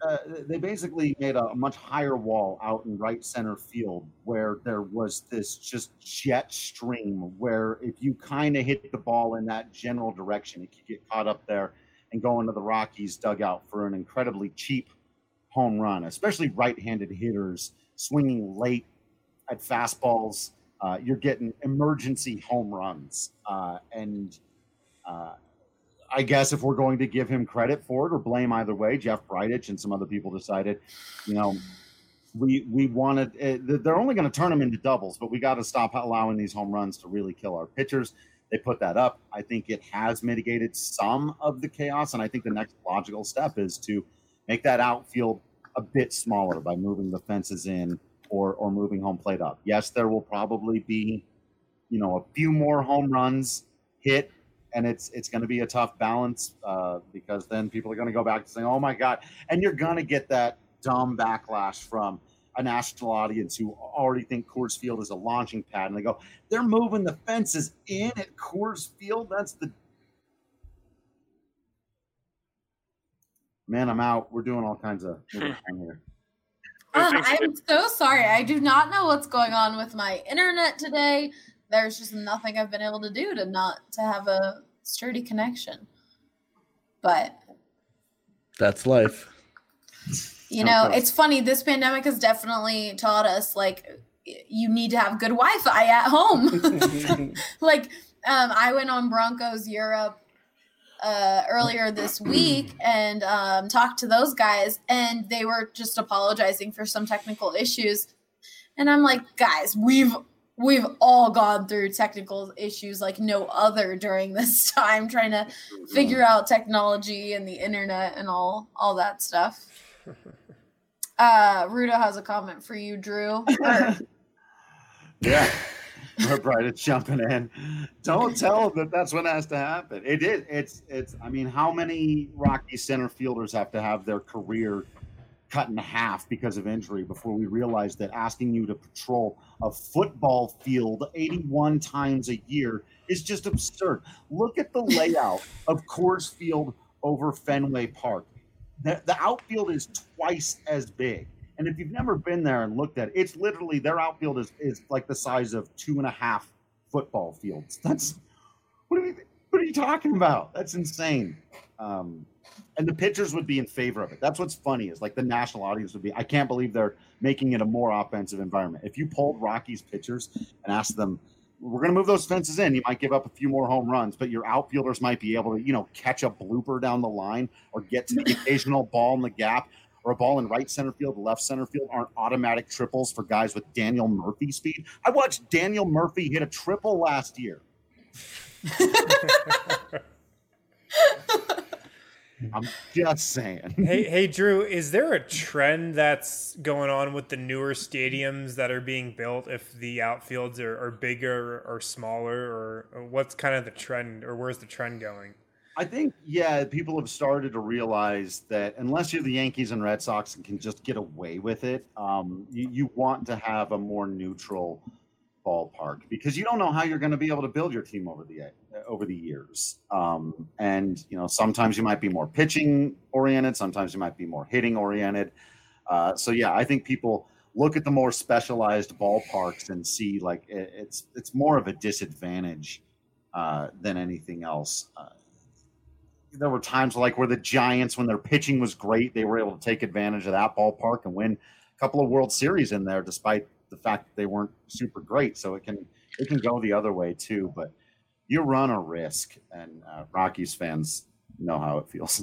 uh, they basically made a much higher wall out in right center field where there was this just jet stream where if you kind of hit the ball in that general direction, it could get caught up there and go into the Rockies dugout for an incredibly cheap home run, especially right-handed hitters swinging late at fastballs. Uh, you're getting emergency home runs. Uh, and uh, I guess if we're going to give him credit for it or blame either way, Jeff Bridich and some other people decided, you know, we we wanted uh, they're only going to turn them into doubles, but we got to stop allowing these home runs to really kill our pitchers. They put that up. I think it has mitigated some of the chaos, and I think the next logical step is to make that outfield a bit smaller by moving the fences in or or moving home plate up. Yes, there will probably be, you know, a few more home runs hit. And it's it's going to be a tough balance uh, because then people are going to go back to saying, oh, my God. And you're going to get that dumb backlash from a national audience who already think Coors Field is a launching pad. And they go, they're moving the fences in at Coors Field? That's the – man, I'm out. We're doing all kinds of here. Uh, I'm so sorry. I do not know what's going on with my internet today. There's just nothing I've been able to do to not to have a sturdy connection. But that's life. You know, it's funny. This pandemic has definitely taught us, like, you need to have good Wi-Fi at home. Like, um, I went on Broncos Europe uh, earlier this week and um, talked to those guys, and they were just apologizing for some technical issues. And I'm like, guys, we've We've all gone through technical issues like no other during this time, trying to figure out technology and the internet and all all that stuff. Uh, Rudo has a comment for you, Drew. Yeah, right. It's jumping in. Don't tell them that that's what has to happen. It is. It's. It's. I mean, how many Rocky center fielders have to have their career cut in half because of injury before we realized that asking you to patrol a football field eighty-one times a year is just absurd. Look at the layout of Coors Field over Fenway Park. The, the outfield is twice as big. And if you've never been there and looked at it, it's literally their outfield is, is like the size of two and a half football fields. That's what are you, what are you talking about? That's insane. Um, And the pitchers would be in favor of it. That's what's funny is like the national audience would be, I can't believe they're making it a more offensive environment. If you polled Rockies pitchers and asked them, we're going to move those fences in, you might give up a few more home runs, but your outfielders might be able to, you know, catch a blooper down the line or get to the occasional ball in the gap or a ball in right center field, left center field aren't automatic triples for guys with Daniel Murphy speed. I watched Daniel Murphy hit a triple last year. I'm just saying. hey, hey, Drew, is there a trend that's going on with the newer stadiums that are being built if the outfields are, are bigger or smaller, or, or what's kind of the trend, or where's the trend going? I think, yeah, people have started to realize that unless you're the Yankees and Red Sox and can just get away with it, um, you, you want to have a more neutral ballpark because you don't know how you're going to be able to build your team over the over the years. Um, and you know, sometimes you might be more pitching oriented, sometimes you might be more hitting oriented. Uh, so yeah, I think people look at the more specialized ballparks and see like it, it's it's more of a disadvantage uh, than anything else. Uh, there were times like where the Giants, when their pitching was great, they were able to take advantage of that ballpark and win a couple of World Series in there, despite the fact that they weren't super great. So it can it can go the other way too, but you run a risk, and uh, Rockies fans know how it feels.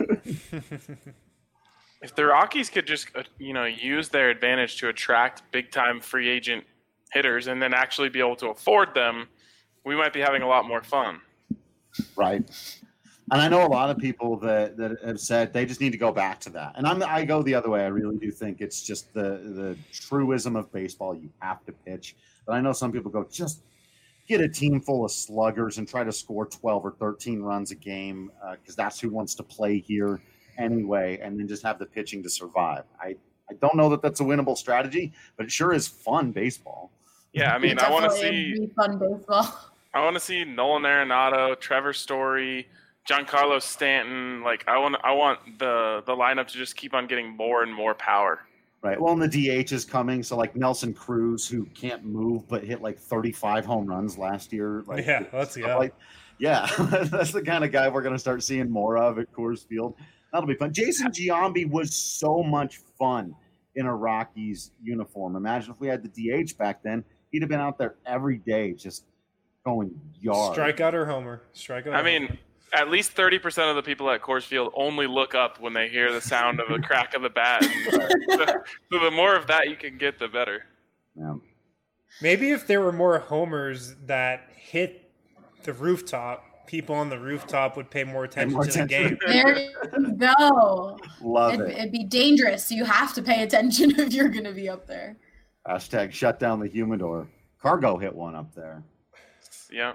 If the Rockies could just uh, you know use their advantage to attract big time free agent hitters and then actually be able to afford them, we might be having a lot more fun. Right. And I know a lot of people that, that have said they just need to go back to that. And I'm, I go the other way. I really do think it's just the, the truism of baseball. You have to pitch. But I know some people go, just get a team full of sluggers and try to score twelve or thirteen runs a game because uh, that's who wants to play here anyway, and then just have the pitching to survive. I, I don't know that that's a winnable strategy, but it sure is fun baseball. Yeah, I mean, I want to see fun baseball. I want to see Nolan Arenado, Trevor Story, Giancarlo Stanton. Like I want, I want the the lineup to just keep on getting more and more power. Right. Well, and the D H is coming. So like Nelson Cruz, who can't move but hit like thirty-five home runs last year. Like, yeah, let's go. Like, yeah, that's the kind of guy we're going to start seeing more of at Coors Field. That'll be fun. Jason Giambi was so much fun in a Rockies uniform. Imagine if we had the D H back then. He'd have been out there every day just going yard. Strikeout or homer. Strikeout. I mean, at least thirty percent of the people at Coors Field only look up when they hear the sound of the crack of the bat. so, so the more of that you can get, the better. Yeah. Maybe if there were more homers that hit the rooftop, people on the rooftop would pay more attention more to attention. the game. There you go. Love it'd, it. it'd be dangerous. You have to pay attention if you're going to be up there. Hashtag shut down the humidor. Cargo hit one up there. Yeah.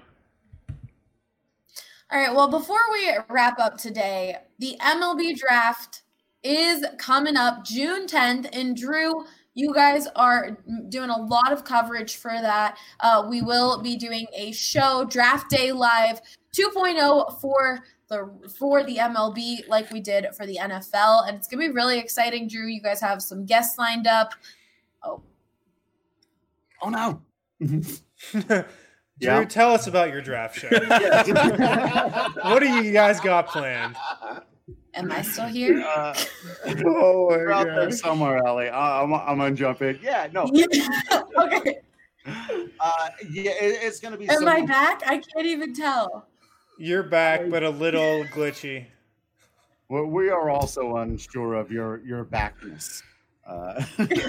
All right, well, before we wrap up today, the M L B draft is coming up June tenth, and Drew, you guys are doing a lot of coverage for that. Uh, we will be doing a show, Draft Day Live two point oh, for the for the M L B, like we did for the N F L, and it's going to be really exciting, Drew. You guys have some guests lined up. Oh, oh no. Drew, Yeah. tell us about your draft show. What do you guys got planned? am I still here? Uh, Oh You're out there somewhere, Ellie. I- I'm, I'm gonna jump in. Yeah, no. Okay. Uh, yeah, it, it's gonna be. Am similar. I back? I can't even tell. You're back, but a little glitchy. Well, we are also unsure of your your backness. Uh,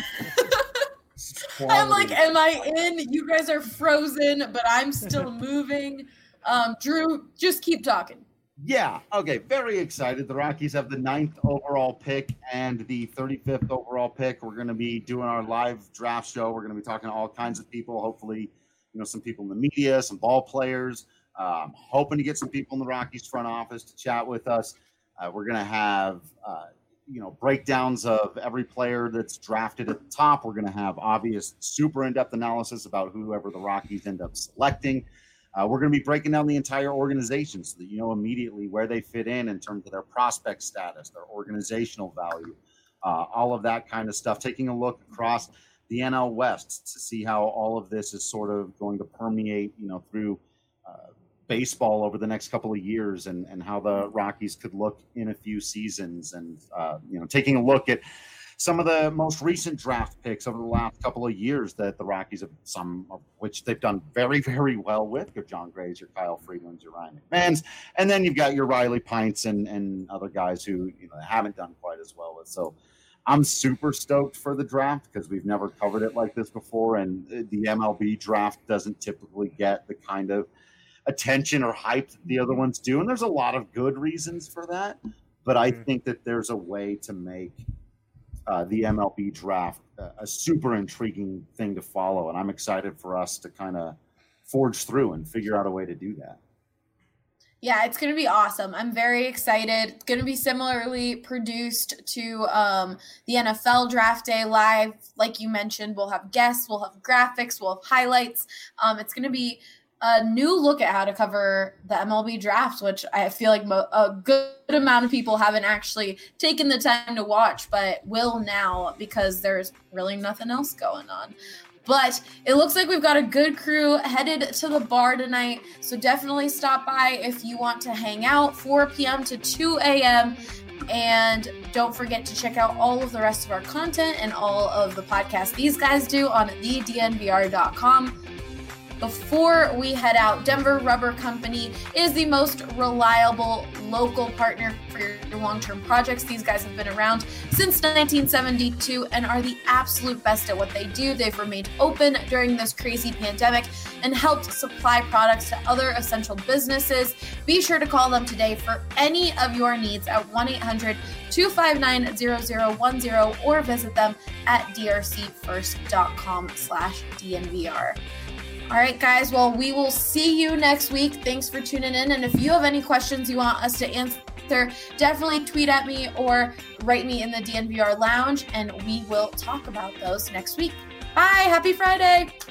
I'm like, am I in? You guys are frozen, but I'm still moving. Um, Drew, just keep talking. Yeah. Okay. Very excited. The Rockies have the ninth overall pick and the thirty-fifth overall pick. We're going to be doing our live draft show. We're going to be talking to all kinds of people. Hopefully, you know, some people in the media, some ball players. Um, hoping to get some people in the Rockies front office to chat with us. Uh, we're going to have, uh, you know, breakdowns of every player that's drafted at the top. We're going to have obvious, super in-depth analysis about whoever the Rockies end up selecting. Uh, we're going to be breaking down the entire organization so that you know immediately where they fit in in terms of their prospect status, their organizational value, uh, all of that kind of stuff. Taking a look across the N L West to see how all of this is sort of going to permeate, you know, through uh, baseball over the next couple of years, and, and how the Rockies could look in a few seasons, and uh, you know, taking a look at some of the most recent draft picks over the last couple of years that the Rockies have, some of which they've done very, very well with. Your John Grays, your Kyle Freelands, your Ryan McMahons, and then you've got your Riley Pints and, and other guys who you know haven't done quite as well with. So I'm super stoked for the draft because we've never covered it like this before, and the M L B draft doesn't typically get the kind of attention or hype that the other ones do, and there's a lot of good reasons for that. But I think that there's a way to make uh, the M L B draft a, a super intriguing thing to follow, and I'm excited for us to kind of forge through and figure out a way to do that. Yeah, it's going to be awesome. I'm very excited. It's going to be similarly produced to um, the N F L Draft Day Live. Like you mentioned, we'll have guests, we'll have graphics, we'll have highlights. Um, it's going to be a new look at how to cover the M L B draft, which I feel like mo- a good amount of people haven't actually taken the time to watch, but will now because there's really nothing else going on. But it looks like we've got a good crew headed to the bar tonight, so definitely stop by if you want to hang out, four p.m. to two a.m., and don't forget to check out all of the rest of our content and all of the podcasts these guys do on the d n v r dot com. Before we head out, Denver Rubber Company is the most reliable local partner for your long-term projects. These guys have been around since nineteen seventy-two and are the absolute best at what they do. They've remained open during this crazy pandemic and helped supply products to other essential businesses. Be sure to call them today for any of your needs at one eight hundred two five nine zero zero one zero or visit them at d r c first dot com slash d n v r. All right, guys. Well, we will see you next week. Thanks for tuning in. And if you have any questions you want us to answer, definitely tweet at me or write me in the D N V R Lounge, and we will talk about those next week. Bye. Happy Friday.